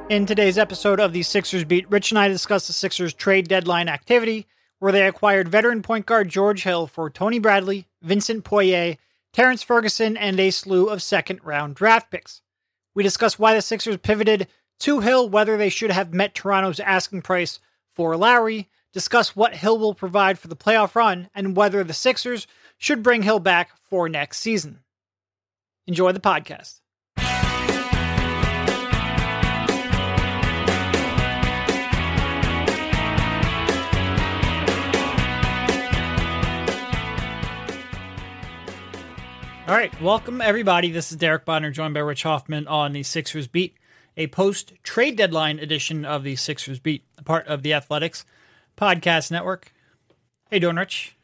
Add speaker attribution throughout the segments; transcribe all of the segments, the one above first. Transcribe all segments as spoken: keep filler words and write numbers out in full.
Speaker 1: In today's episode of the Sixers Beat, Rich and I discuss the Sixers trade deadline activity, where they acquired veteran point guard George Hill for Tony Bradley, Vincent Poirier, Terrence Ferguson, and a slew of second-round draft picks. We discuss why the Sixers pivoted to Hill, whether they should have met Toronto's asking price for Lowry, discuss what Hill will provide for the playoff run, and whether the Sixers should bring Hill back for next season. Enjoy the podcast. All right, welcome everybody. This is Derek Bonner, joined by Rich Hoffman on the Sixers Beat, a post-trade deadline edition of the Sixers Beat, a part of the Athletics Podcast Network. How you doing, Rich?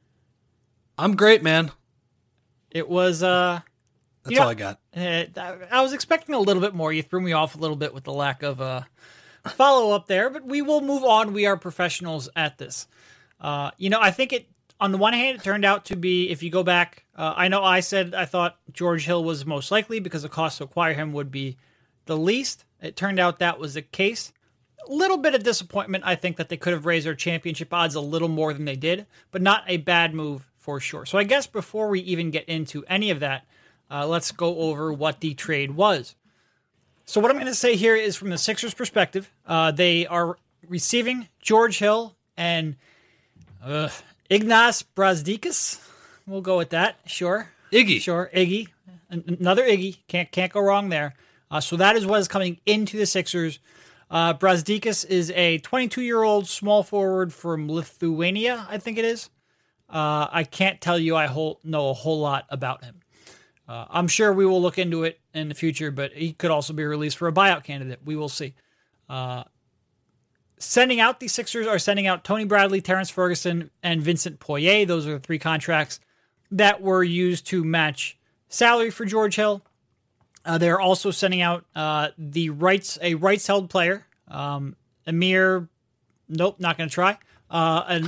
Speaker 2: I'm great, man.
Speaker 1: It was, uh...
Speaker 2: That's all know, I got.
Speaker 1: Uh, I was expecting a little bit more. You threw me off a little bit with the lack of uh, follow-up there, but we will move on. We are professionals at this. Uh, you know, I think it, on the one hand, it turned out to be, if you go back, uh, I know I said I thought George Hill was most likely because the cost to acquire him would be the least. It turned out that was the case. A little bit of disappointment, I think, that they could have raised their championship odds a little more than they did, but not a bad move for sure. So I guess before we even get into any of that, uh, let's go over what the trade was. So what I'm going to say here is from the Sixers' perspective. Uh, they are receiving George Hill and uh, Ignas Brazdeikis. We'll go with that. Sure.
Speaker 2: Iggy.
Speaker 1: Sure. Iggy. Another Iggy. Can't can't go wrong there. Uh, so that is what is coming into the Sixers. Uh, Brazdeikis is a twenty-two-year-old small forward from Lithuania, I think it is. Uh, I can't tell you I whole, know a whole lot about him. Uh, I'm sure we will look into it in the future, but he could also be released for a buyout candidate. We will see. Uh, sending out, the Sixers are sending out Tony Bradley, Terrence Ferguson, and Vincent Poirier. Those are the three contracts that were used to match salary for George Hill. Uh, they're also sending out uh, the rights, a rights-held player, um, Amir. Nope, not going to try. Uh,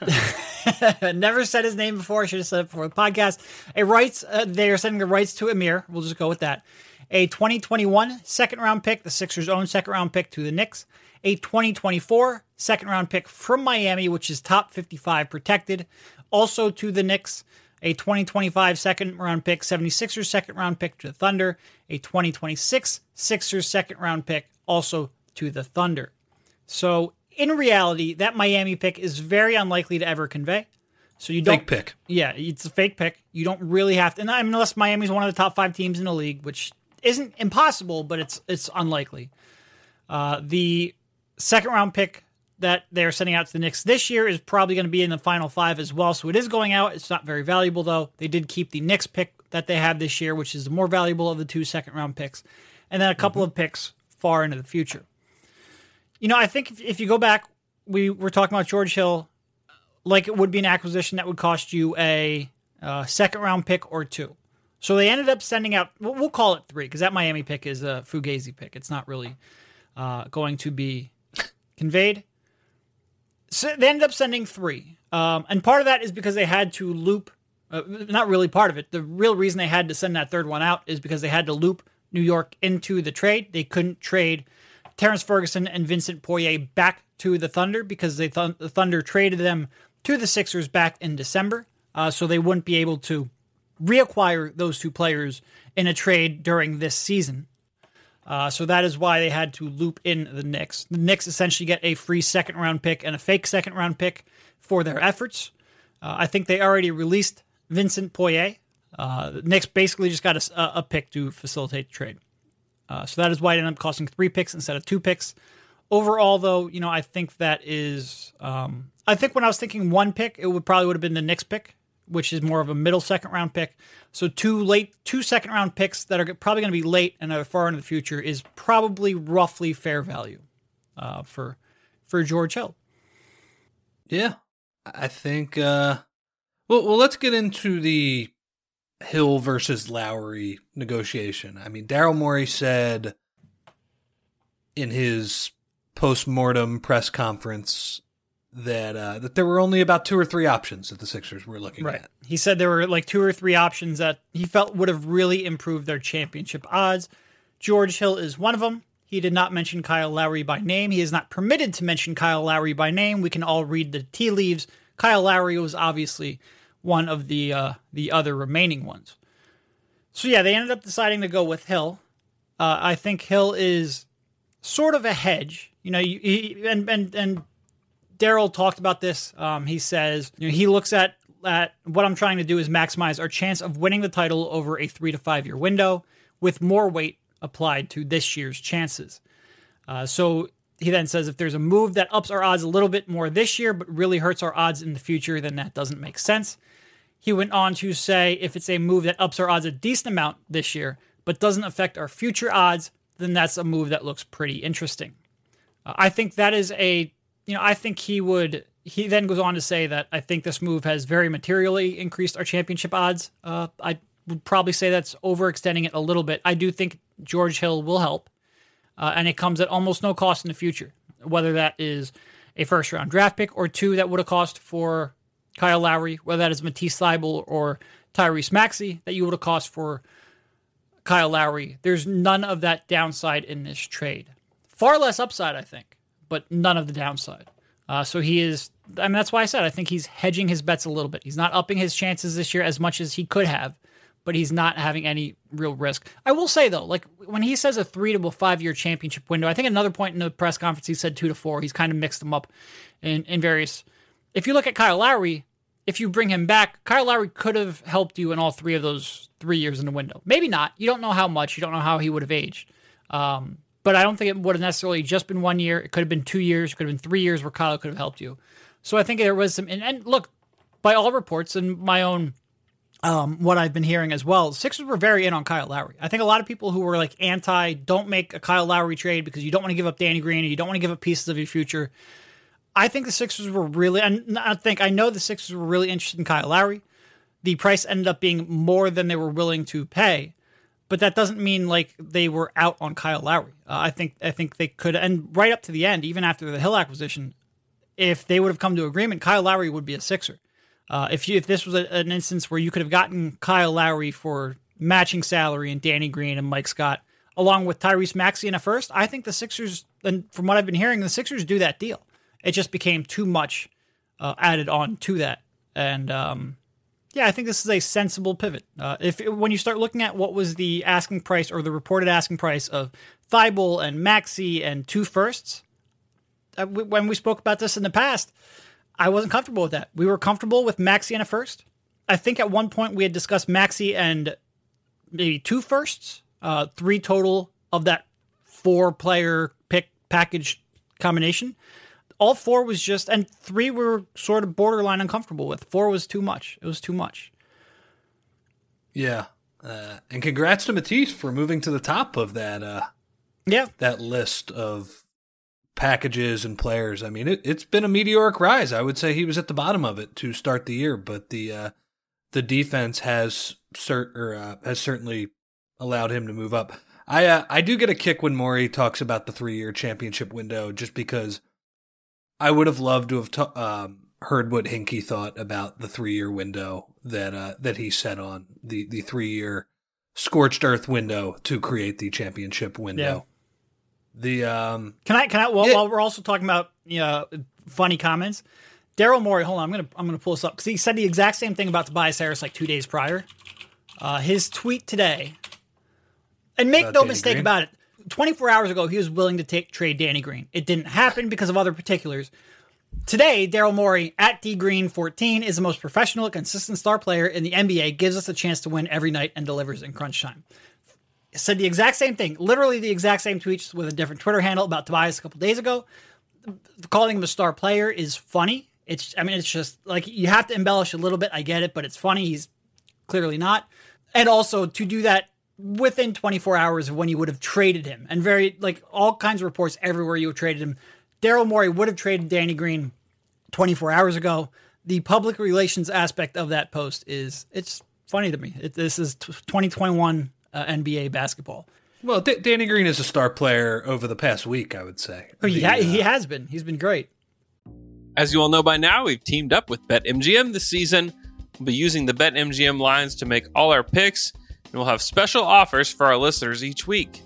Speaker 1: and never said his name before. I should have said it before the podcast. A rights. Uh, they are sending the rights to Amir. We'll just go with that. A twenty twenty-one second-round pick, the Sixers' own second-round pick, to the Knicks. A twenty twenty-four second-round pick from Miami, which is top fifty-five protected, also to the Knicks. A twenty twenty-five second-round pick, seventy-sixers second-round pick to the Thunder. A twenty twenty-six Sixers second-round pick, also to the Thunder. So, in reality, that Miami pick is very unlikely to ever convey. So you don't
Speaker 2: fake pick.
Speaker 1: Yeah, it's a fake pick. You don't really have to, and I mean, unless Miami's one of the top five teams in the league, which isn't impossible, but it's it's unlikely. Uh, the second-round pick that they're sending out to the Knicks this year is probably going to be in the final five as well. So it is going out. It's not very valuable, though. They did keep the Knicks pick that they had this year, which is the more valuable of the two second-round picks, and then a couple mm-hmm. of picks far into the future. You know, I think if, if you go back, we were talking about George Hill like it would be an acquisition that would cost you a uh, second-round pick or two. So they ended up sending out, we'll, we'll call it three, because that Miami pick is a Fugazi pick. It's not really uh, going to be conveyed. So they ended up sending three. Um, and part of that is because they had to loop, uh, not really part of it. The real reason they had to send that third one out is because they had to loop New York into the trade. They couldn't trade Terrence Ferguson and Vincent Poirier back to the Thunder because they th- the Thunder traded them to the Sixers back in December. Uh, so they wouldn't be able to reacquire those two players in a trade during this season. Uh, so that is why they had to loop in the Knicks. The Knicks essentially get a free second-round pick and a fake second-round pick for their efforts. Uh, I think they already released Vincent Poirier. Uh, the Knicks basically just got a, a pick to facilitate the trade. Uh, so that is why it ended up costing three picks instead of two picks. Overall, though, you know, I think that is... Um, I think when I was thinking one pick, it would probably would have been the Knicks pick, which is more of a middle second-round pick. So two late, two second-round picks that are probably going to be late and are far into the future is probably roughly fair value uh, for for George Hill.
Speaker 2: Yeah, I think... Uh, well, well, let's get into the Hill versus Lowry negotiation. I mean, Daryl Morey said in his post-mortem press conference that uh, that there were only about two or three options that the Sixers were looking
Speaker 1: right.
Speaker 2: at.
Speaker 1: He said there were like two or three options that he felt would have really improved their championship odds. George Hill is one of them. He did not mention Kyle Lowry by name. He is not permitted to mention Kyle Lowry by name. We can all read the tea leaves. Kyle Lowry was obviously one of the uh, the other remaining ones. So yeah, they ended up deciding to go with Hill. Uh, I think Hill is sort of a hedge. You know, you, he, and and and Daryl talked about this. Um, he says, you know, he looks at at what I'm trying to do is maximize our chance of winning the title over a three to five year window, with more weight applied to this year's chances. Uh, so he then says, if there's a move that ups our odds a little bit more this year, but really hurts our odds in the future, then that doesn't make sense. He went on to say, if it's a move that ups our odds a decent amount this year, but doesn't affect our future odds, then that's a move that looks pretty interesting. Uh, I think that is a, you know, I think he would, he then goes on to say that I think this move has very materially increased our championship odds. Uh, I would probably say that's overextending it a little bit. I do think George Hill will help, uh, and it comes at almost no cost in the future, whether that is a first-round draft pick or two that would have cost for Kyle Lowry, whether that is Matisse Thybulle or Tyrese Maxey that you would have cost for Kyle Lowry. There's none of that downside in this trade. Far less upside, I think, but none of the downside. Uh, so he is, I mean, that's why I said I think he's hedging his bets a little bit. He's not upping his chances this year as much as he could have, but he's not having any real risk. I will say, though, like when he says a three to five-year championship window, I think another point in the press conference he said two to four. He's kind of mixed them up in, in various. If you look at Kyle Lowry, if you bring him back, Kyle Lowry could have helped you in all three of those three years in the window. Maybe not. You don't know how much. You don't know how he would have aged. Um, but I don't think it would have necessarily just been one year. It could have been two years. It could have been three years where Kyle could have helped you. So I think there was some. And, and look, by all reports and my own, um, what I've been hearing as well, Sixers were very in on Kyle Lowry. I think a lot of people who were like anti, don't make a Kyle Lowry trade because you don't want to give up Danny Green and you don't want to give up pieces of your future. I think the Sixers were really, and I think, I know the Sixers were really interested in Kyle Lowry. The price ended up being more than they were willing to pay, but that doesn't mean like they were out on Kyle Lowry. Uh, I think, I think they could, and right up to the end, even after the Hill acquisition, if they would have come to agreement, Kyle Lowry would be a Sixer. Uh, if you, if this was a, an instance where you could have gotten Kyle Lowry for matching salary and Danny Green and Mike Scott, along with Tyrese Maxey in a first, I think the Sixers, and from what I've been hearing, the Sixers do that deal. It just became too much uh, added on to that. And um, yeah, I think this is a sensible pivot. Uh, if when you start looking at what was the asking price or the reported asking price of Thybulle and Maxey and two firsts, uh, we, when we spoke about this in the past, I wasn't comfortable with that. We were comfortable with Maxey and a first. I think at one point we had discussed Maxey and maybe two firsts, uh, three total of that four-player pick package combination. All four was just, and three we were sort of borderline uncomfortable with. Four was too much. It was too much.
Speaker 2: Yeah. Uh, and congrats to Matisse for moving to the top of that uh,
Speaker 1: yeah.
Speaker 2: that list of packages and players. I mean, it, it's been a meteoric rise. I would say he was at the bottom of it to start the year, but the uh, the defense has cert, or, uh, has certainly allowed him to move up. I uh, I do get a kick when Morey talks about the three-year championship window, just because I would have loved to have t- um, heard what Hinkie thought about the three-year window that uh, that he set on, the, the three-year scorched earth window to create the championship window. Yeah. The um,
Speaker 1: Can I, can I, well,
Speaker 2: yeah.
Speaker 1: while we're also talking about, you know, funny comments, Daryl Morey, hold on, I'm going to, I'm going to pull this up because he said the exact same thing about Tobias Harris like two days prior. Uh, his tweet today, and make
Speaker 2: about
Speaker 1: no
Speaker 2: Danny
Speaker 1: mistake
Speaker 2: Green?
Speaker 1: about it, twenty-four hours ago, he was willing to take trade Danny Green. It didn't happen because of other particulars. Today, Daryl Morey, at D Green fourteen, is the most professional, consistent star player in the N B A, gives us a chance to win every night and delivers in crunch time. Said the exact same thing, literally the exact same tweets with a different Twitter handle about Tobias a couple days ago. Calling him a star player is funny. It's, I mean, it's just like you have to embellish a little bit. I get it, but it's funny. He's clearly not. And also to do that within twenty-four hours of when you would have traded him, and very, like, all kinds of reports everywhere you have traded him. Daryl Morey would have traded Danny Green twenty-four hours ago. The public relations aspect of that post is, it's funny to me. It, this is twenty twenty-one uh, N B A basketball.
Speaker 2: Well, D- Danny Green is a star player over the past week, I would say.
Speaker 1: Oh, he,
Speaker 2: the,
Speaker 1: ha-
Speaker 2: uh,
Speaker 1: he has been. He's been great.
Speaker 3: As you all know by now, we've teamed up with BetMGM this season. We'll be using the BetMGM lines to make all our picks, and we'll have special offers for our listeners each week.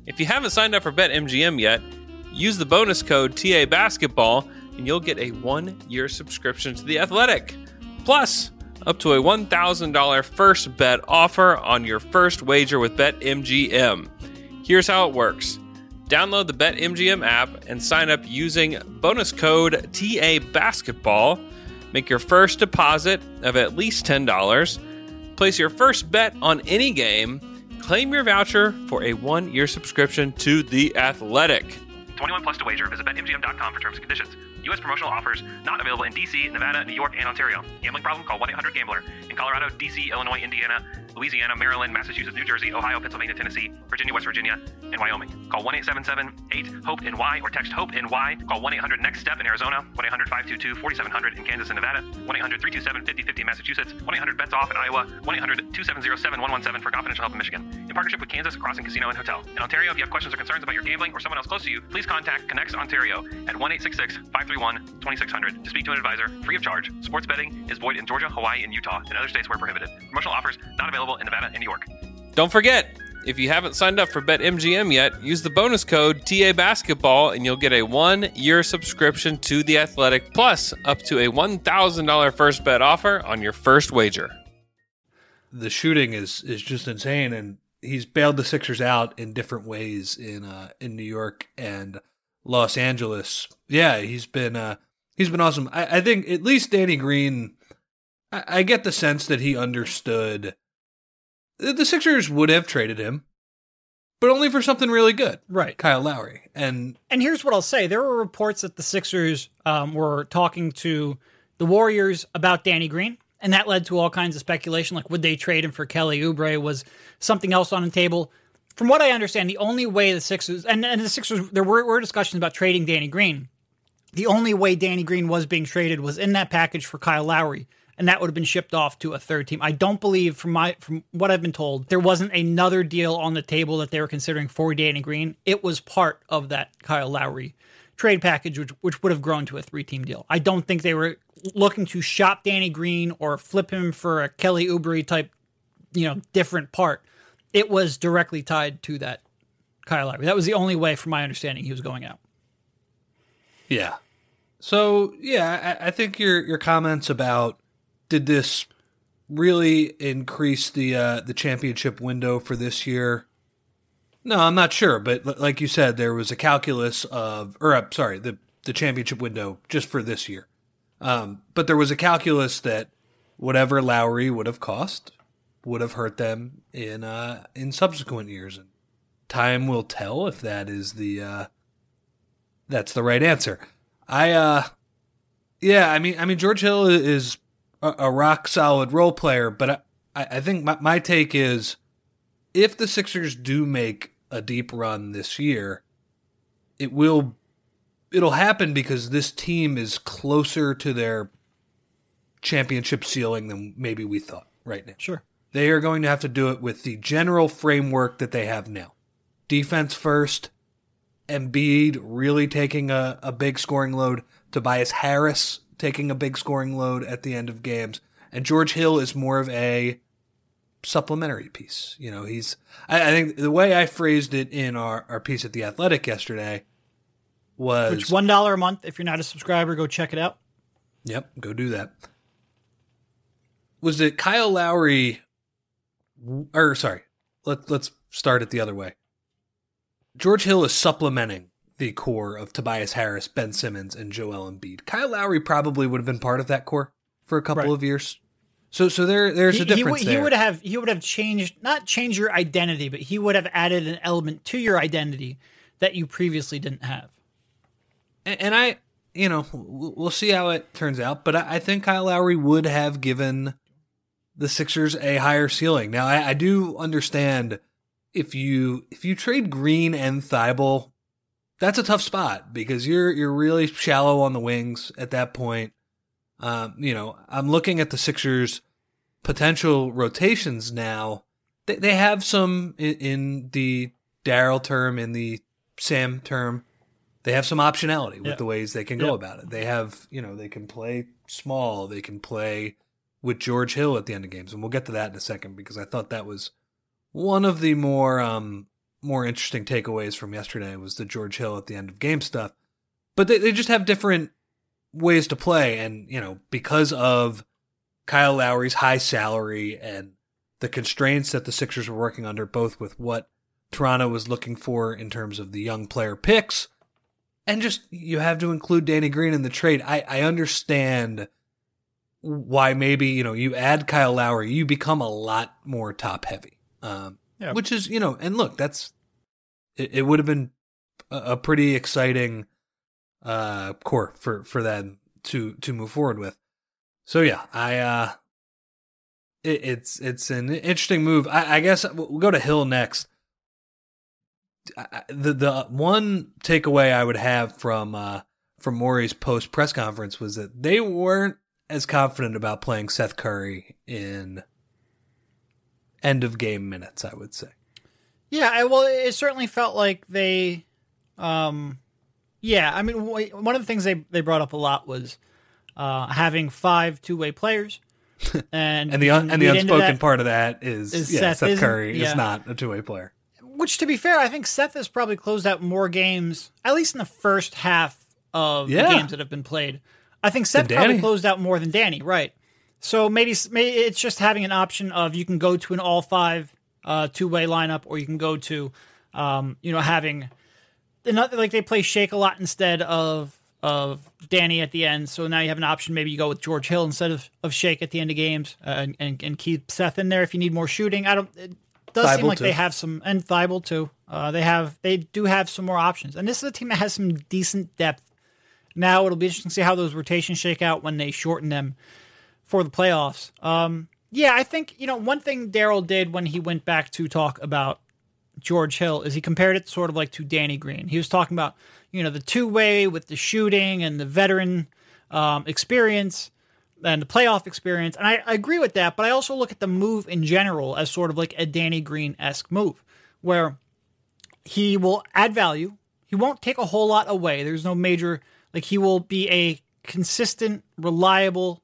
Speaker 3: If you haven't signed up for BetMGM yet, use the bonus code T A Basketball and you'll get a one-year subscription to The Athletic. Plus, up to a one thousand dollars first bet offer on your first wager with BetMGM. Here's how it works. Download the BetMGM app and sign up using bonus code T A Basketball. Make your first deposit of at least ten dollars. Place your first bet on any game. Claim your voucher for a one-year subscription to The Athletic.
Speaker 4: twenty-one plus to wager. Visit Bet M G M dot com for terms and conditions. U S promotional offers not available in D C, Nevada, New York, and Ontario. Gambling problem? Call one eight hundred gambler. In Colorado, D C, Illinois, Indiana, Louisiana, Maryland, Massachusetts, New Jersey, Ohio, Pennsylvania, Tennessee, Virginia, West Virginia, and Wyoming. Call one eight seven seven eight hope N Y or text HOPE-NY. Call one eight hundred next step in Arizona, one eight hundred five two two four seven zero zero in Kansas and Nevada, one eight hundred three two seven five zero five zero in Massachusetts, one eight hundred bets off in Iowa, one eight hundred two seven zero seven one one seven for confidential help in Michigan. In partnership with Kansas Crossing Casino and Hotel. In Ontario, if you have questions or concerns about your gambling or someone else close to you, please contact Connects Ontario at one eight six six five three one two six zero zero to speak to an advisor free of charge. Sports betting is void in Georgia, Hawaii, and Utah, and other states where prohibited. Promotional offers not available in Nevada and New York.
Speaker 3: Don't forget, if you haven't signed up for BetMGM yet, use the bonus code T A Basketball and you'll get a one-year subscription to The Athletic, plus up to a one thousand dollars first bet offer on your first wager.
Speaker 2: The shooting is is just insane, and he's bailed the Sixers out in different ways in uh, in New York and Los Angeles. Yeah, he's been uh, he's been awesome. I, I think at least Danny Green, I, I get the sense that he understood the Sixers would have traded him, but only for something really good.
Speaker 1: Right.
Speaker 2: Kyle Lowry. And
Speaker 1: and here's what I'll say. There were reports that the Sixers um, were talking to the Warriors about Danny Green, and that led to all kinds of speculation, like would they trade him for Kelly Oubre? Was something else on the table? From what I understand, the only way the Sixers, and, and the Sixers, there were, were discussions about trading Danny Green. The only way Danny Green was being traded was in that package for Kyle Lowry, and that would have been shipped off to a third team. I don't believe, from my from what I've been told, there wasn't another deal on the table that they were considering for Danny Green. It was part of that Kyle Lowry trade package, which, which would have grown to a three-team deal. I don't think they were looking to shop Danny Green or flip him for a Kelly Oubre type, you know, different part. It was directly tied to that Kyle Lowry. That was the only way, from my understanding, he was going out.
Speaker 2: yeah. So, yeah, I, I think your your comments about did this really increase the uh, the championship window for this year? No, I'm not sure. But like you said, there was a calculus of, or uh, sorry, the, the championship window just for this year. Um, but there was a calculus that whatever Lowry would have cost would have hurt them in uh, in subsequent years. And time will tell if that is the uh, that's the right answer. I uh, yeah, I mean, I mean George Hill is a, a rock solid role player, but I, I think my, my take is if the Sixers do make a deep run this year, it will it'll happen because this team is closer to their championship ceiling than maybe we thought right now.
Speaker 1: Sure.
Speaker 2: They are going to have to do it with the general framework that they have now. Defense first, Embiid really taking a, a big scoring load, Tobias Harris taking a big scoring load at the end of games, and George Hill is more of a supplementary piece. You know, he's, I, I think the way I phrased it in our, our piece at The Athletic yesterday was...
Speaker 1: Which one dollar a month, if you're not a subscriber, go check it out.
Speaker 2: Yep, go do that. Was that Kyle Lowry, or sorry, let, let's start it the other way. George Hill is supplementing the core of Tobias Harris, Ben Simmons, and Joel Embiid. Kyle Lowry probably would have been part of that core for a couple
Speaker 1: Right.
Speaker 2: of years. So, so there, there's
Speaker 1: He,
Speaker 2: a difference
Speaker 1: he,
Speaker 2: there.
Speaker 1: he would have he would have changed, not changed your identity, but he would have added an element to your identity that you previously didn't have.
Speaker 2: And, and I, you know, we'll see how it turns out, but I, I think Kyle Lowry would have given the Sixers a higher ceiling. Now, I, I do understand if you if you trade Green and Thibault, that's a tough spot because you're you're really shallow on the wings at that point. Um, you know, I'm looking at the Sixers' potential rotations now. They, they have some in, in the Daryl term, in the Sam term. They have some optionality with
Speaker 1: Yeah.
Speaker 2: the ways they can go
Speaker 1: Yeah.
Speaker 2: about it. They have, you know, they can play small. They can play with George Hill at the end of games. And we'll get to that in a second because I thought that was one of the more um, more interesting takeaways from yesterday was the George Hill at the end of game stuff. But they, they just have different ways to play. And, you know, because of Kyle Lowry's high salary and the constraints that the Sixers were working under, both with what Toronto was looking for in terms of the young player picks, and just you have to include Danny Green in the trade. I, I understand why maybe, you know, you add Kyle Lowry, you become a lot more top heavy. Um,
Speaker 1: yeah.
Speaker 2: Which is, you know, and look, that's, it, it would have been a, a pretty exciting uh, core for, for them to, to move forward with. So yeah, I, uh, it, it's, it's an interesting move. I, I guess we'll go to Hill next. I, the, the one takeaway I would have from, uh, from Morey's post press conference was that they weren't as confident about playing Seth Curry in end of game minutes, I would say.
Speaker 1: Yeah, I, well, it certainly felt like they, um, yeah, I mean, one of the things they, they brought up a lot was uh, having five two-way players. And
Speaker 2: and the un, and the unspoken that,
Speaker 1: part
Speaker 2: of that is,
Speaker 1: is
Speaker 2: yeah,
Speaker 1: Seth,
Speaker 2: Seth Curry
Speaker 1: yeah.
Speaker 2: is not a two-way player.
Speaker 1: Which, to be fair, I think Seth has probably closed out more games, at least in the first half of
Speaker 2: yeah.
Speaker 1: the games that have been played. I think Seth probably closed out more than Danny, right? So maybe, maybe it's just having an option of you can go to an all five uh, two way lineup, or you can go to, um, you know, having like they play Shake a lot instead of of Danny at the end. So now you have an option. Maybe you go with George Hill instead of, of Shake at the end of games, uh, and, and and keep Seth in there if you need more shooting. I don't. It does
Speaker 2: Thibault
Speaker 1: seem like
Speaker 2: too.
Speaker 1: they have some, and Thibault too. Uh, they have they do have some more options, and this is a team that has some decent depth. Now it'll be interesting to see how those rotations shake out when they shorten them for the playoffs. Um, yeah, I think, you know, one thing Daryl did when he went back to talk about George Hill is he compared it sort of like to Danny Green. He was talking about, you know, the two-way with the shooting and the veteran um, experience and the playoff experience. And I, I agree with that, but I also look at the move in general as sort of like a Danny Green-esque move where he will add value. He won't take a whole lot away. There's no major... Like, he will be a consistent, reliable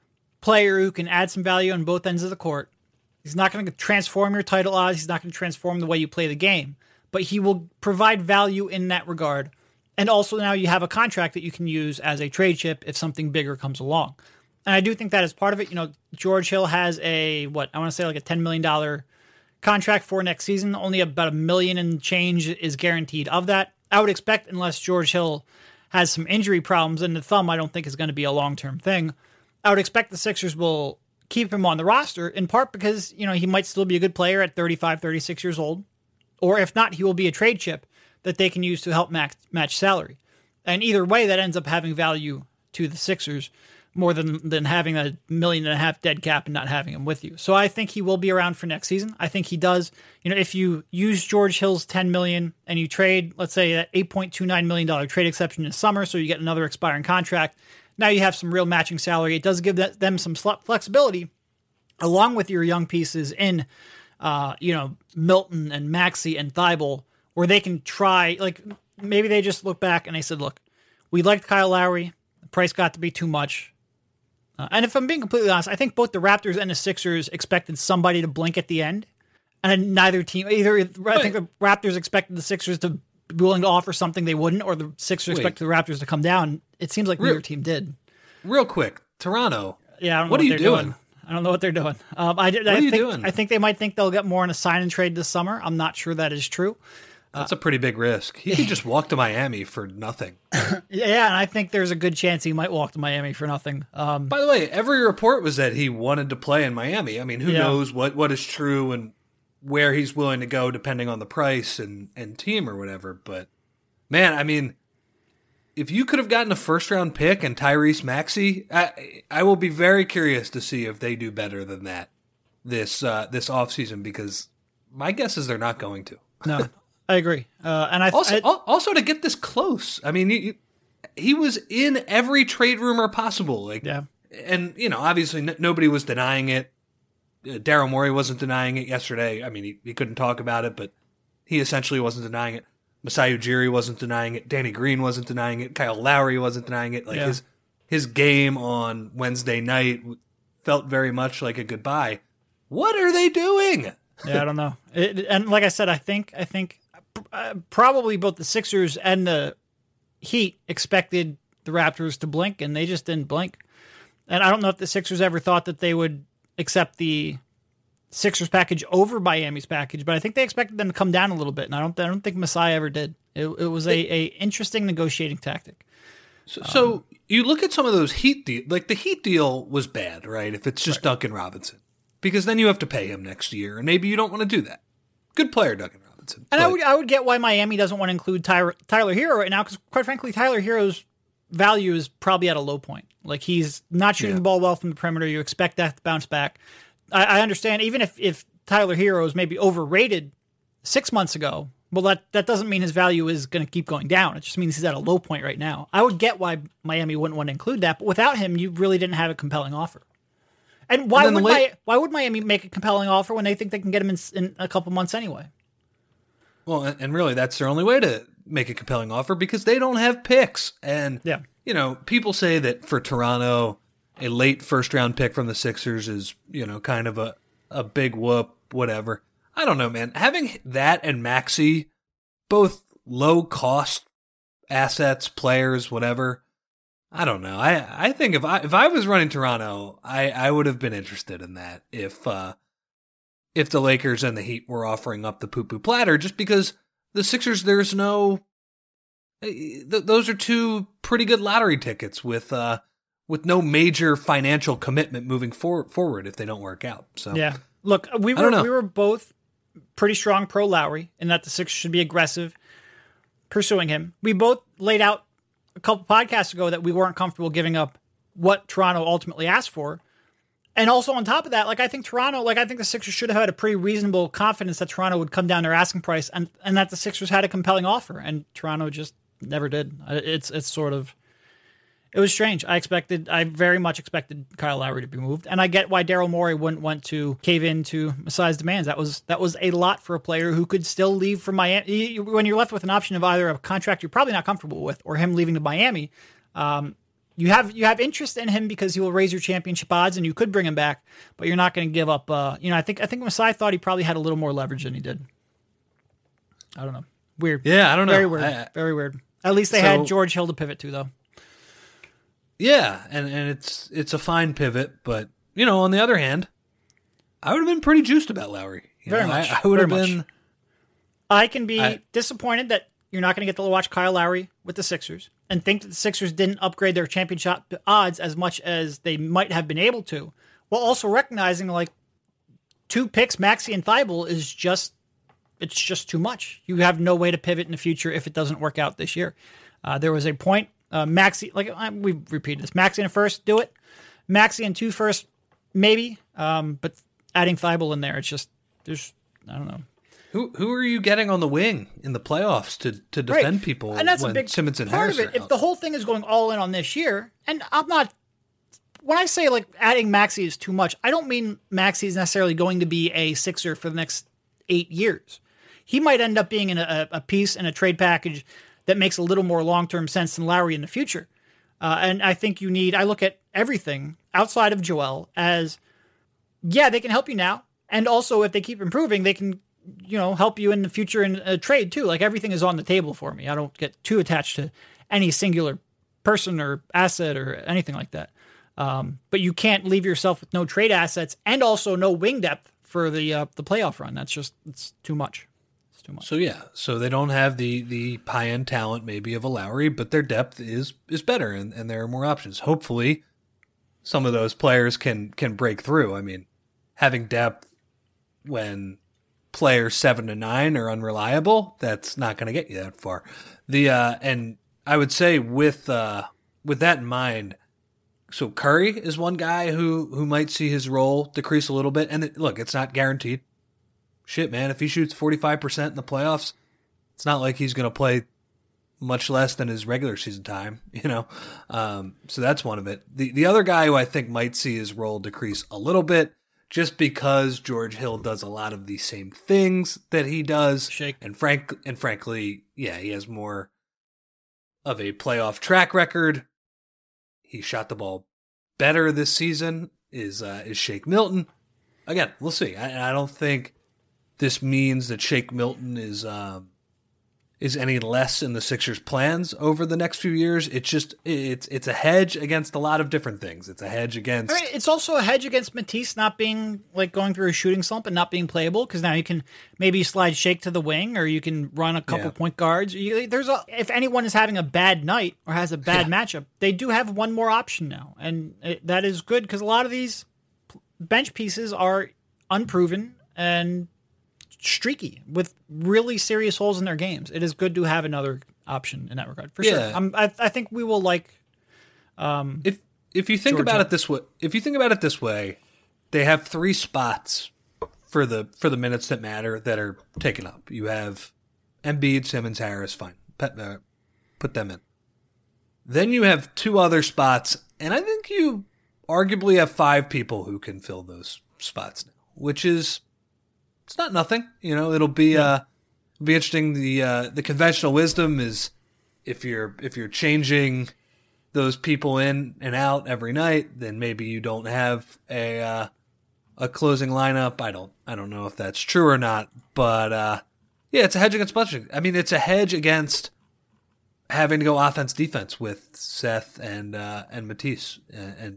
Speaker 1: player who can add some value on both ends of the court. He's not going to transform your title odds. He's not going to transform the way you play the game. But he will provide value in that regard. And also now you have a contract that you can use as a trade chip if something bigger comes along. And I do think that is part of it. You know, George Hill has a, what, I want to say like a ten million dollars contract for next season. Only about a million and change is guaranteed of that. I would expect, unless George Hill has some injury problems, and the thumb I don't think is going to be a long-term thing, I would expect the Sixers will keep him on the roster, in part because, you know, he might still be a good player at thirty-five, thirty-six years old. Or if not, he will be a trade chip that they can use to help match, match salary. And either way, that ends up having value to the Sixers more than, than having a million and a half dead cap and not having him with you. So I think he will be around for next season. I think he does. You know, if you use George Hill's ten million dollars and you trade, let's say, that eight point two nine million dollars trade exception in summer, so you get another expiring contract, now you have some real matching salary. It does give that, them some flexibility, along with your young pieces in, uh, you know, Milton and Maxey and Thibault, where they can try, like, maybe they just look back and they said, look, we liked Kyle Lowry. The price got to be too much. Uh, and if I'm being completely honest, I think both the Raptors and the Sixers expected somebody to blink at the end. And neither team, either, I think the Raptors expected the Sixers to be willing to offer something they wouldn't, or the Sixers
Speaker 2: Wait.
Speaker 1: expected the Raptors to come down. It seems like
Speaker 2: Real,
Speaker 1: neither team did.
Speaker 2: Real quick, Toronto.
Speaker 1: Yeah, I don't know
Speaker 2: what,
Speaker 1: what,
Speaker 2: are
Speaker 1: they're
Speaker 2: you doing?
Speaker 1: doing. I don't know what they're doing. Um, I,
Speaker 2: what
Speaker 1: I
Speaker 2: are
Speaker 1: think,
Speaker 2: you doing?
Speaker 1: I think they might think they'll get more in a sign and trade this summer. I'm not sure that is true.
Speaker 2: That's a pretty big risk. He could just walk to Miami for nothing.
Speaker 1: Yeah, and I think there's a good chance he might walk to Miami for nothing. Um,
Speaker 2: By the way, every report was that he wanted to play in Miami. I mean, who
Speaker 1: Yeah.
Speaker 2: knows what, what is true and where he's willing to go depending on the price and, and team or whatever. But, man, I mean, if you could have gotten a first-round pick and Tyrese Maxey, I, I will be very curious to see if they do better than that this uh, this offseason, because my guess is they're not going to.
Speaker 1: no, I agree. Uh, and I
Speaker 2: Also,
Speaker 1: I,
Speaker 2: al- also to get this close, I mean, you, you, he was in every trade rumor possible. Like,
Speaker 1: Yeah.
Speaker 2: and you know, obviously, n- nobody was denying it. Uh, Daryl Morey wasn't denying it yesterday. I mean, he, he couldn't talk about it, but he essentially wasn't denying it. Masai Ujiri wasn't denying it. Danny Green wasn't denying it. Kyle Lowry wasn't denying it. Like
Speaker 1: Yeah.
Speaker 2: his his game on Wednesday night felt very much like a goodbye. What are they doing?
Speaker 1: yeah, I don't know. It, and like I said, I think I think uh, probably both the Sixers and the Heat expected the Raptors to blink, and they just didn't blink. And I don't know if the Sixers ever thought that they would accept the Sixers package over Miami's package, but I think they expected them to come down a little bit, and I don't I don't think Masai ever did. It, it was a, a interesting negotiating tactic.
Speaker 2: So, so um, you look at some of those Heat deals, like the Heat deal was bad, right? If it's just right. Duncan Robinson, because then you have to pay him next year, and maybe you don't want to do that. Good player, Duncan Robinson.
Speaker 1: And but, I would I would get why Miami doesn't want to include Tyler, Tyler Hero right now, because quite frankly, Tyler Hero's value is probably at a low point. Like, he's not shooting yeah. the ball well from the perimeter. You expect that to bounce back. I, I understand, even if, if Tyler Hero is maybe overrated six months ago, well, that, that doesn't mean his value is going to keep going down. It just means he's at a low point right now. I would get why Miami wouldn't want to include that, but without him, you really didn't have a compelling offer. And why and would late, Mi- why would Miami make a compelling offer when they think they can get him in, in a couple months anyway?
Speaker 2: Well, and really, that's their only way to make a compelling offer, because they don't have picks. And,
Speaker 1: yeah.
Speaker 2: you know, people say that for Toronto, a late first-round pick from the Sixers is, you know, kind of a, a big whoop, whatever. I don't know, man. Having that and Maxey, both low-cost assets, players, whatever, I don't know. I, I think if I if I was running Toronto, I, I would have been interested in that if uh, if the Lakers and the Heat were offering up the poo-poo platter, just because the Sixers, there's no... Th- those are two pretty good lottery tickets with uh, with no major financial commitment moving for- forward if they don't work out. So
Speaker 1: yeah. Look, we were we were both pretty strong pro Lowry, and that the Sixers should be aggressive pursuing him. We both laid out a couple podcasts ago that we weren't comfortable giving up what Toronto ultimately asked for. And also on top of that, like I think Toronto, like I think the Sixers should have had a pretty reasonable confidence that Toronto would come down their asking price, and, and that the Sixers had a compelling offer, and Toronto just never did. It's it's sort of, it was strange. I expected, I very much expected Kyle Lowry to be moved, and I get why Daryl Morey wouldn't want to cave into Masai's demands. That was that was a lot for a player who could still leave for Miami. When you're left with an option of either a contract you're probably not comfortable with or him leaving to Miami, um, you have you have interest in him because he will raise your championship odds, and you could bring him back, but you're not going to give up. Uh, you know, I think I think Masai thought he probably had a little more leverage than he did. I don't know. Weird.
Speaker 2: Yeah, I don't know.
Speaker 1: Very weird.
Speaker 2: I,
Speaker 1: Very weird. At least they
Speaker 2: so,
Speaker 1: had George Hill to pivot to, though.
Speaker 2: Yeah, and, and it's it's a fine pivot, but, you know, on the other hand, I would have been pretty juiced about Lowry. You
Speaker 1: Very
Speaker 2: know,
Speaker 1: much.
Speaker 2: I, I would
Speaker 1: Very
Speaker 2: have been...
Speaker 1: Much. I can be
Speaker 2: I,
Speaker 1: disappointed that you're not going to get to watch Kyle Lowry with the Sixers, and think that the Sixers didn't upgrade their championship odds as much as they might have been able to, while also recognizing, like, two picks, Maxey and Thibault, is just, it's just too much. You have no way to pivot in the future if it doesn't work out this year. Uh, there was a point, uh, Maxey, like I, we've repeated this, Maxey in a first, do it. Maxey in two first, maybe, um, but adding Thibault in there, it's just, there's, I don't know.
Speaker 2: Who who are you getting on the wing in the playoffs to, to defend
Speaker 1: right.
Speaker 2: people
Speaker 1: and that's
Speaker 2: when
Speaker 1: a big
Speaker 2: Simmons and
Speaker 1: part
Speaker 2: Harris
Speaker 1: of it.
Speaker 2: are
Speaker 1: If
Speaker 2: out?
Speaker 1: the whole thing is going all in on this year, and I'm not, when I say like adding Maxey is too much, I don't mean Maxey is necessarily going to be a Sixer for the next eight years. He might end up being in a, a piece in a trade package that makes a little more long-term sense than Lowry in the future. Uh, and I think you need, I look at everything outside of Joel as, yeah, they can help you now. And also if they keep improving, they can, you know, help you in the future in a trade too. Like everything is on the table for me. I don't get too attached to any singular person or asset or anything like that. Um, but you can't leave yourself with no trade assets and also no wing depth for the, uh, the playoff run. That's just, it's too much. It's too much.
Speaker 2: So yeah, so they don't have the, the high-end talent maybe of a Lowry, but their depth is, is better and, and there are more options. Hopefully some of those players can, can break through. I mean, having depth when players seven to nine are unreliable, that's not going to get you that far. The uh, and I would say with uh, with that in mind, so Curry is one guy who who might see his role decrease a little bit. And it, look, it's not guaranteed. Shit, man, if he shoots forty-five percent in the playoffs, it's not like he's going to play much less than his regular season time, you know. Um, so that's one of it. The the other guy who I think might see his role decrease a little bit, just because George Hill does a lot of the same things that he does.
Speaker 1: Shake.
Speaker 2: And frank and frankly, yeah, he has more of a playoff track record. He shot the ball better this season, is uh, is Shake Milton. Again, we'll see. I, I don't think this means that Shake Milton is um, is any less in the Sixers' plans over the next few years. It's just it's it's a hedge against a lot of different things. It's a hedge against.
Speaker 1: I mean, it's also a hedge against Matisse not being like going through a shooting slump and not being playable, because now you can maybe slide Shake to the wing, or you can run a couple
Speaker 2: Yeah.
Speaker 1: point guards. You, there's a if anyone is having a bad night or has a bad
Speaker 2: Yeah.
Speaker 1: matchup, they do have one more option now, and it, that is good because a lot of these bench pieces are unproven and streaky with really serious holes in their games. It is good to have another option in that regard, for sure.
Speaker 2: Yeah.
Speaker 1: I'm, I, I think we will like.
Speaker 2: If if you think
Speaker 1: Georgia.
Speaker 2: about it this way, if you think about it this way, they have three spots for the for the minutes that matter that are taken up. You have Embiid, Simmons, Harris. Fine, put, uh, put them in. Then you have two other spots, and I think you arguably have five people who can fill those spots now, which is it's not nothing. You know, it'll be uh be interesting. The uh, the conventional wisdom is if you're if you're changing those people in and out every night, then maybe you don't have a uh, a closing lineup. I don't I don't know if that's true or not, but uh, yeah, it's a hedge against bunching. I mean, it's a hedge against having to go offense defense with Seth and uh, and Matisse and, and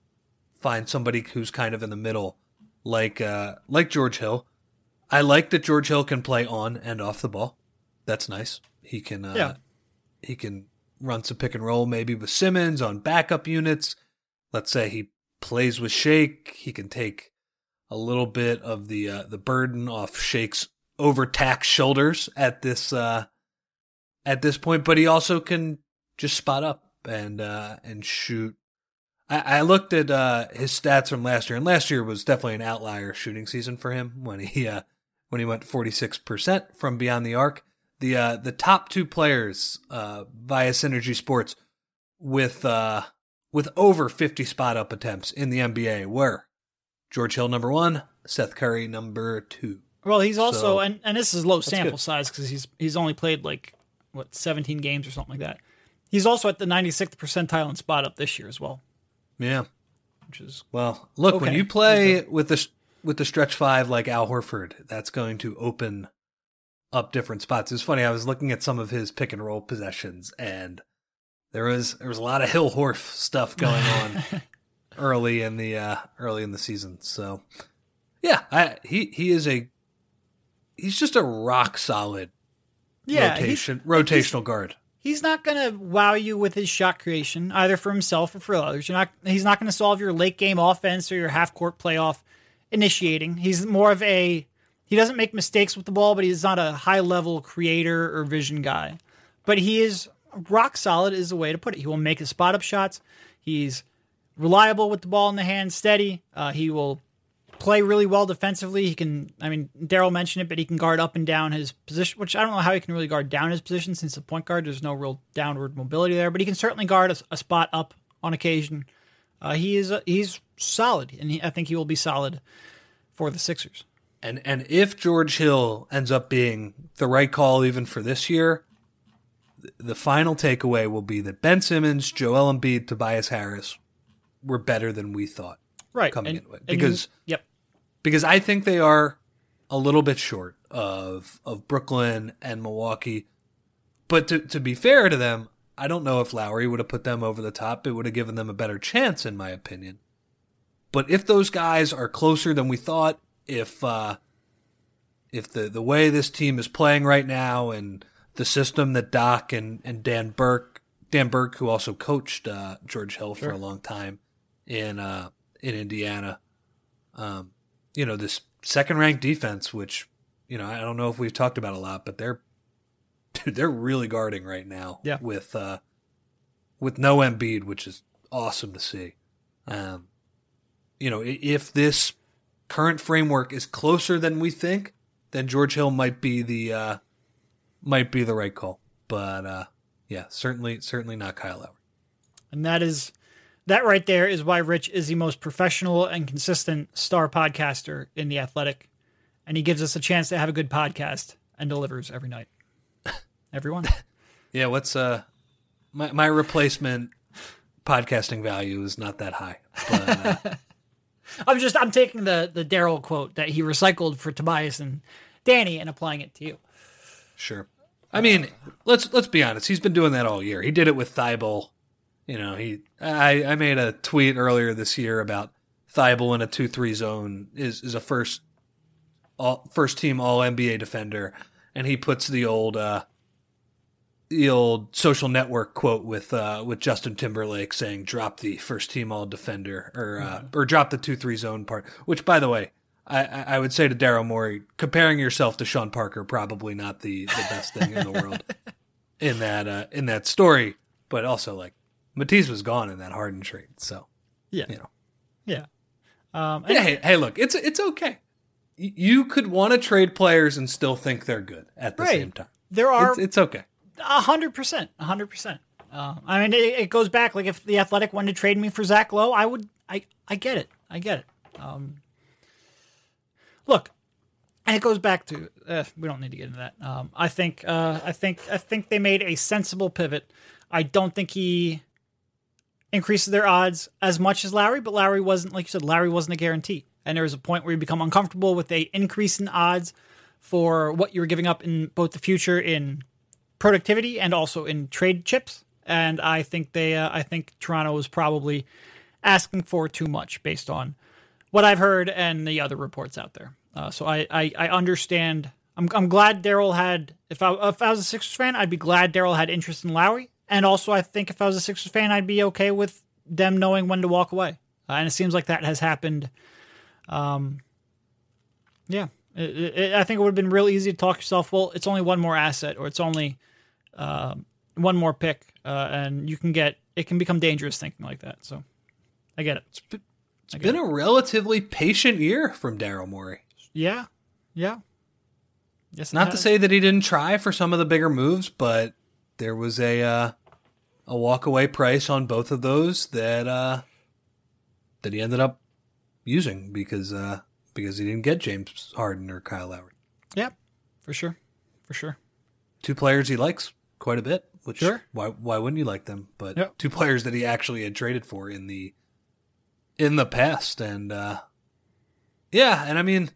Speaker 2: find somebody who's kind of in the middle, like uh, like George Hill. I like that George Hill can play on and off the ball. That's nice. He can uh,
Speaker 1: Yeah.
Speaker 2: he can run some pick and roll maybe with Simmons on backup units. Let's say he plays with Shake. He can take a little bit of the uh, the burden off Shake's overtaxed shoulders at this uh, at this point, but he also can just spot up and uh, and shoot. I, I looked at uh, his stats from last year, and last year was definitely an outlier shooting season for him when he uh, when he went forty-six percent from beyond the arc. The uh, the top two players uh, via Synergy Sports with uh, with over fifty spot up attempts in the N B A were George Hill number one, Seth Curry number two.
Speaker 1: Well, he's also,
Speaker 2: So,
Speaker 1: and, and this is low sample
Speaker 2: good.
Speaker 1: size because he's he's only played like, what, seventeen games or something like that. He's also at the ninety-sixth percentile in spot up this year as well,
Speaker 2: Yeah.
Speaker 1: which is,
Speaker 2: Well, look, when
Speaker 1: Okay.
Speaker 2: you play with the with the stretch five like Al Horford, that's going to open up different spots. It's funny. I was looking at some of his pick and roll possessions, and there was there was a lot of Hill Horf stuff going on early in the uh, early in the season. So, yeah, I, he he is a he's just a rock solid
Speaker 1: yeah, he's,
Speaker 2: rotation rotational guard.
Speaker 1: he's not going to wow you with his shot creation, either for himself or for others. You're not, he's not going to solve your late game offense or your half court playoff initiating. He's more of a, he doesn't make mistakes with the ball, but he's not a high level creator or vision guy. But he is rock solid is the way to put it. He will make his spot up shots. He's reliable with the ball in the hand, steady. Uh, he will play really well defensively. He can, I mean, Daryl mentioned it, but he can guard up and down his position, which I don't know how he can really guard down his position since the point guard, there's no real downward mobility there, but he can certainly guard a, a spot up on occasion. Uh, he is, uh, he's solid, and he, I think he will be solid for the Sixers.
Speaker 2: And and if George Hill ends up being the right call even for this year, th- the final takeaway will be that Ben Simmons, Joel Embiid, Tobias Harris were better than we thought
Speaker 1: Right.
Speaker 2: coming
Speaker 1: and,
Speaker 2: into it.
Speaker 1: and
Speaker 2: Because
Speaker 1: you- yep.
Speaker 2: because I think they are a little bit short of of Brooklyn and Milwaukee. But to to be fair to them, I don't know if Lowry would have put them over the top. It would have given them a better chance, in my opinion. But if those guys are closer than we thought, if uh, if the, the way this team is playing right now and the system that Doc and, and Dan Burke, Dan Burke, who also coached uh, George Hill for
Speaker 1: Sure.
Speaker 2: a long time in uh, in Indiana, um, you know, this second ranked defense, which, you know, I don't know if we've talked about a lot, but they're dude, they're really guarding right now
Speaker 1: Yeah.
Speaker 2: with uh, with no Embiid, which is awesome to see. Um, you know, i- if this current framework is closer than we think, then George Hill might be the uh, might be the right call. But uh, yeah, certainly certainly not Kyle Lowry.
Speaker 1: And that is, that right there is why Rich is the most professional and consistent star podcaster in The Athletic. And he gives us a chance to have a good podcast and delivers every night. Everyone.
Speaker 2: Yeah, what's uh my my replacement podcasting value is not that high. But, uh,
Speaker 1: I'm just, I'm taking the, the Daryl quote that he recycled for Tobias and Danny and applying it to you.
Speaker 2: sure. I mean, let's let's be honest. He's been doing that all year. He did it with Thibault. You know, he. I, I made a tweet earlier this year about Thibault in a two three zone is is a first all, first team All N B A defender, and he puts the old uh, the old Social Network quote with uh, with Justin Timberlake saying "drop the first team All defender" or uh, or drop the two three zone part. Which, by the way, I, I would say to Daryl Morey, comparing yourself to Sean Parker probably not the, the best thing in the world in that uh, in that story. But also, like, Matisse was gone in that Harden trade, so
Speaker 1: yeah,
Speaker 2: you know,
Speaker 1: yeah, um, and
Speaker 2: yeah. Hey, hey, look, it's it's okay. Y- You could want to trade players and still think they're good at the
Speaker 1: Right.
Speaker 2: same time.
Speaker 1: there are
Speaker 2: It's, it's okay.
Speaker 1: A hundred percent, a hundred percent. Um, I mean, it, it goes back. Like, if the Athletic wanted to trade me for Zach Lowe, I would. I I get it. I get it. Um, look, and it goes back to. Uh, we don't need to get into that. Um, I think. Uh, I think. I think they made a sensible pivot. I don't think he increases their odds as much as Lowry, but Lowry wasn't, like you said, Lowry wasn't a guarantee. And there was a point where you become uncomfortable with a increase in odds for what you were giving up in both the future in productivity and also in trade chips. And I think they, uh, I think Toronto was probably asking for too much based on what I've heard and the other reports out there. Uh, so I, I, I understand. I'm, I'm glad Daryl had. If I, if I was a Sixers fan, I'd be glad Daryl had interest in Lowry. And also, I think if I was a Sixers fan, I'd be okay with them knowing when to walk away. Uh, and it seems like that has happened. Um, yeah, it, it, I think it would have been real easy to talk yourself, well, it's only one more asset, or it's only uh, one more pick, uh, and you can get, it can become dangerous thinking like that. So I get it.
Speaker 2: It's been, it's been a relatively patient year from Daryl Morey.
Speaker 1: Yeah, yeah. Yes, it
Speaker 2: Not to
Speaker 1: has.
Speaker 2: say that he didn't try for some of the bigger moves, but there was a uh, a walkaway price on both of those that uh, that he ended up using because uh, because he didn't get James Harden or Kyle Lowry.
Speaker 1: Yeah, for sure, for sure.
Speaker 2: Two players he likes quite a bit. Which
Speaker 1: Sure.
Speaker 2: why why wouldn't you like them? But
Speaker 1: Yep.
Speaker 2: two players that he actually had traded for in the in the past, and uh, yeah, and I mean,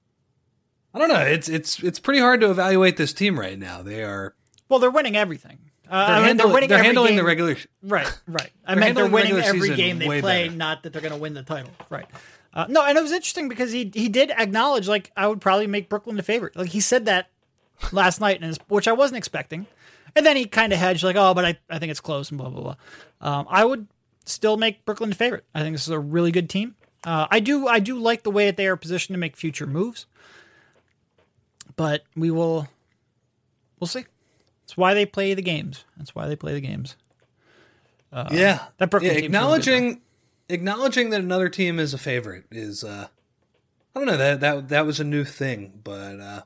Speaker 2: I don't know. It's it's it's pretty hard to evaluate this team right now. They are
Speaker 1: Well, they're winning everything. Uh,
Speaker 2: they're,
Speaker 1: I mean,
Speaker 2: handling,
Speaker 1: they're winning
Speaker 2: they're
Speaker 1: every
Speaker 2: handling
Speaker 1: game.
Speaker 2: the regular.
Speaker 1: Right, right. I
Speaker 2: They're
Speaker 1: meant they're
Speaker 2: handling the
Speaker 1: winning
Speaker 2: regular
Speaker 1: every
Speaker 2: season
Speaker 1: game they
Speaker 2: way
Speaker 1: play,
Speaker 2: better.
Speaker 1: not that they're going to win the title. Right. Uh, no, and it was interesting because he he did acknowledge, like, I would probably make Brooklyn the favorite. Like, he said that last night, and which I wasn't expecting. And then he kind of hedged, like, oh, but I, I think it's close and blah, blah, blah. Um, I would still make Brooklyn the favorite. I think this is a really good team. Uh, I do I do like the way that they are positioned to make future moves. But we will, we'll see. That's why they play the games. That's why they play the games. Uh,
Speaker 2: yeah,
Speaker 1: that Brooklyn
Speaker 2: yeah,
Speaker 1: team's really
Speaker 2: acknowledging acknowledging that another team is a favorite is uh, I don't know that that that was a new thing, but uh,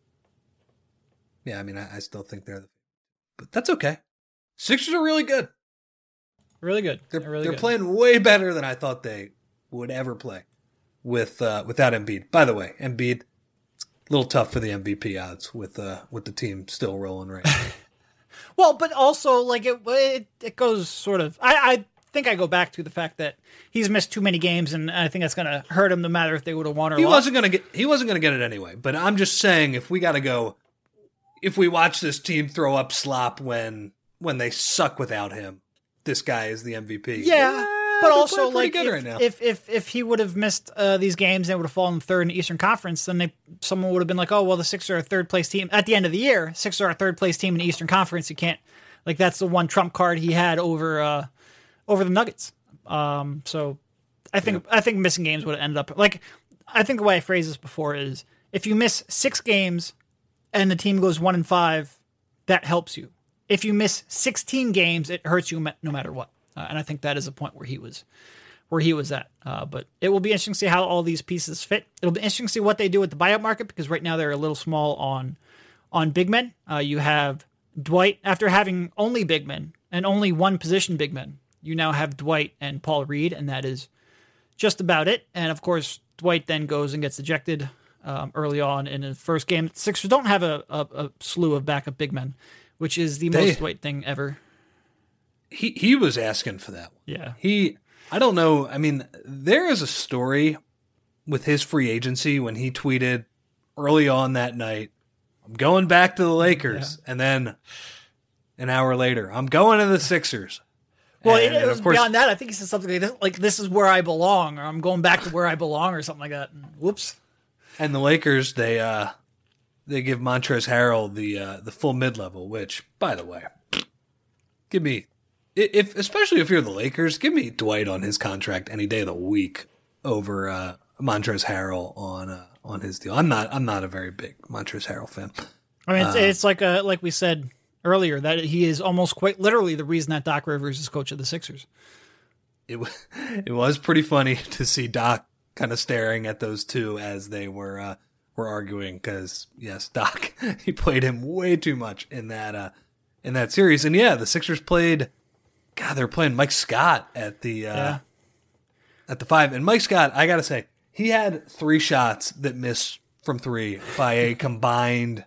Speaker 2: yeah, I mean, I, I still think they're the, but that's okay. Sixers are really good.
Speaker 1: Really good.
Speaker 2: They're
Speaker 1: They're really
Speaker 2: they're
Speaker 1: good.
Speaker 2: playing way better than I thought they would ever play with uh, without Embiid. By the way, Embiid. A little tough for the M V P odds with uh, with the team still rolling right now.
Speaker 1: Well, but also, like, it, it it goes sort of. I, I think I go back to the fact that he's missed too many games, and I think that's going to hurt him no matter if they would have won or
Speaker 2: He
Speaker 1: lost.
Speaker 2: wasn't gonna get he wasn't gonna get it anyway. But I'm just saying, if we got to go, if we watch this team throw up slop when when they suck without him, this guy is the M V P.
Speaker 1: Yeah, but
Speaker 2: they're
Speaker 1: also,
Speaker 2: playing
Speaker 1: like,
Speaker 2: pretty good
Speaker 1: if,
Speaker 2: right now.
Speaker 1: if if if he would have missed uh, these games and would have fallen third in the Eastern Conference, then they someone would have been like, oh, well, the Sixers are a third place team at the end of the year. Sixers are a third place team in the Eastern Conference. You can't, like, that's the one trump card he had over uh, over the Nuggets. Um, so I think I think missing games would have ended up like I think the way I phrased this before is if you miss six games and the team goes one and five, that helps you. If you miss sixteen games, it hurts you no matter what. Uh, and I think that is a point where he was, where he was at. Uh, but it will be interesting to see how all these pieces fit. It'll be interesting to see what they do with the buyout market because right now they're a little small on, on big men. Uh, you have Dwight after having only big men and only one position big men. You now have Dwight and Paul Reed, and that is just about it. And of course, Dwight then goes and gets ejected um, early on in the first game. The Sixers don't have a, a, a slew of backup big men, which is the
Speaker 2: They-
Speaker 1: most Dwight thing ever.
Speaker 2: he he was asking for that one.
Speaker 1: Yeah.
Speaker 2: He, I don't know. I mean, there is a story with his free agency when he tweeted early on that night, I'm going back to the Lakers. Yeah. And then an hour later, I'm going to the Sixers.
Speaker 1: Well, and, it, it was course, beyond that. I think he said something like this, like, this is where I belong, or I'm going back to where I belong, or something like that. And, whoops.
Speaker 2: And the Lakers, they uh, they give Montrezl Harrell the uh, the full mid-level, which, by the way, give me, if especially if you're the Lakers, give me Dwight on his contract any day of the week over uh, Montrezl Harrell on uh, on his deal. I'm not I'm not a very big Montrezl Harrell fan.
Speaker 1: I mean, it's, uh, it's like a, like we said earlier, that he is almost quite literally the reason that Doc Rivers is coach of the Sixers.
Speaker 2: It was it was pretty funny to see Doc kind of staring at those two as they were uh, were arguing, because yes, Doc, he played him way too much in that uh, in that series. And yeah, the Sixers played. God, they're playing Mike Scott at the uh,
Speaker 1: yeah.
Speaker 2: at the five, and Mike Scott, I gotta say, he had three shots that missed from three by a combined.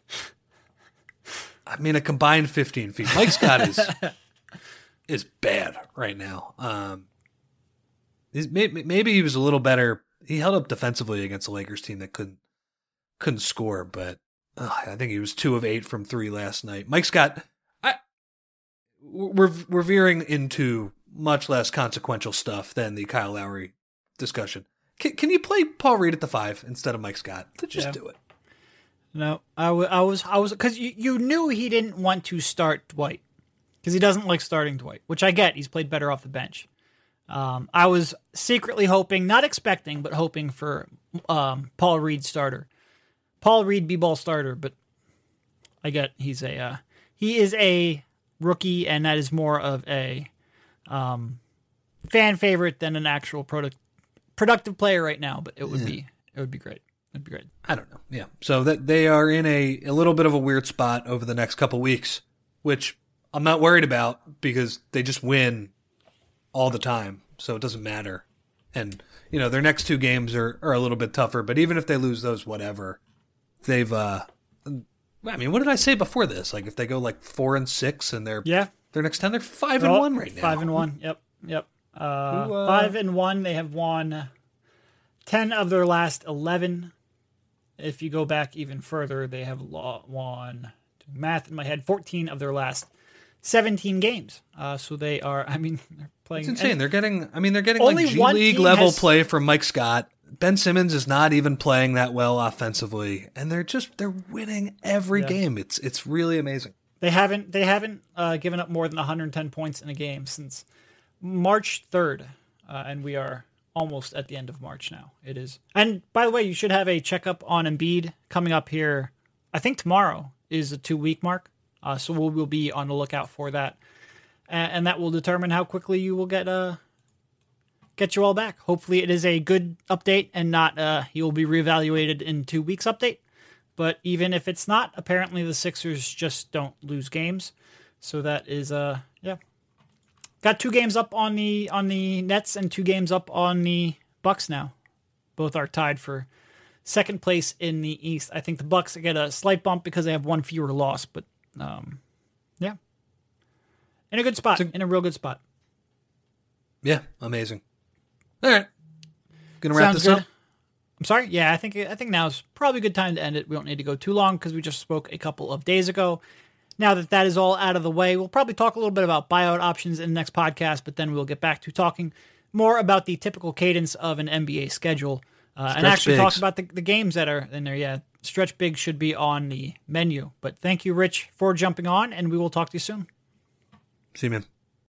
Speaker 2: I mean, a combined fifteen feet. Mike Scott is is bad right now. Um, maybe, maybe he was a little better. He held up defensively against the Lakers team that couldn't couldn't score, but uh, I think he was two of eight from three last night. Mike Scott, I we're we're veering into much less consequential stuff than the Kyle Lowry discussion. Can, can you play Paul Reed at the five instead of Mike Scott? Just yeah. do it.
Speaker 1: No, I, w- I was I was because you, you knew he didn't want to start Dwight because he doesn't like starting Dwight, which I get. He's played better off the bench. Um, I was secretly hoping, not expecting, but hoping for um, Paul Reed starter, Paul Reed b-ball starter. But I get he's a uh, he is a rookie, and that is more of a um, fan favorite than an actual product productive player right now. But it would yeah. be it would be great. It'd be great.
Speaker 2: I don't know. Yeah. So that they are in a, a little bit of a weird spot over the next couple weeks, which I'm not worried about because they just win all the time. So it doesn't matter. And, you know, their next two games are, are a little bit tougher, but even if they lose those, whatever, they've, uh, I mean, what did I say before this? Like if they go like four and six and they're,
Speaker 1: yeah,
Speaker 2: their next ten, they're five and
Speaker 1: oh,
Speaker 2: one right now.
Speaker 1: Five and one. Yep. Yep. Uh, Who, uh, five and one. They have won ten of their last eleven. If you go back even further, they have won, math in my head, fourteen of their last seventeen games. Uh, so they are, I mean, they're playing.
Speaker 2: It's insane. They're getting, I mean, they're getting like G League level has, play from Mike Scott. Ben Simmons is not even playing that well offensively, and they're just, they're winning every yeah. game. It's it's really amazing.
Speaker 1: They haven't, they haven't uh, given up more than one hundred ten points in a game since March third, uh, and we are almost at the end of March now. It is. And by the way, you should have a checkup on Embiid coming up here. I think tomorrow is a two-week mark. Uh, so we'll, we'll be on the lookout for that. And, and that will determine how quickly you will get uh, get you all back. Hopefully it is a good update and not uh, he will be reevaluated in two weeks update. But even if it's not, apparently the Sixers just don't lose games. So that is, uh, yeah. Got two games up on the on the Nets and two games up on the Bucks now. Both are tied for second place in the East. I think the Bucks get a slight bump because they have one fewer loss, but um, yeah, in a good spot, a, in a real good spot.
Speaker 2: Yeah, amazing. All right, gonna wrap
Speaker 1: Sounds
Speaker 2: this
Speaker 1: good.
Speaker 2: up.
Speaker 1: I'm sorry. Yeah, I think I think now is probably a good time to end it. We don't need to go too long because we just spoke a couple of days ago. Now that that is all out of the way, we'll probably talk a little bit about buyout options in the next podcast, but then we'll get back to talking more about the typical cadence of an N B A schedule uh, and actually bigs. talk about the, the games that are in there. Yeah, stretch big should be on the menu. But thank you, Rich, for jumping on, and we will talk to you soon.
Speaker 2: See you, man.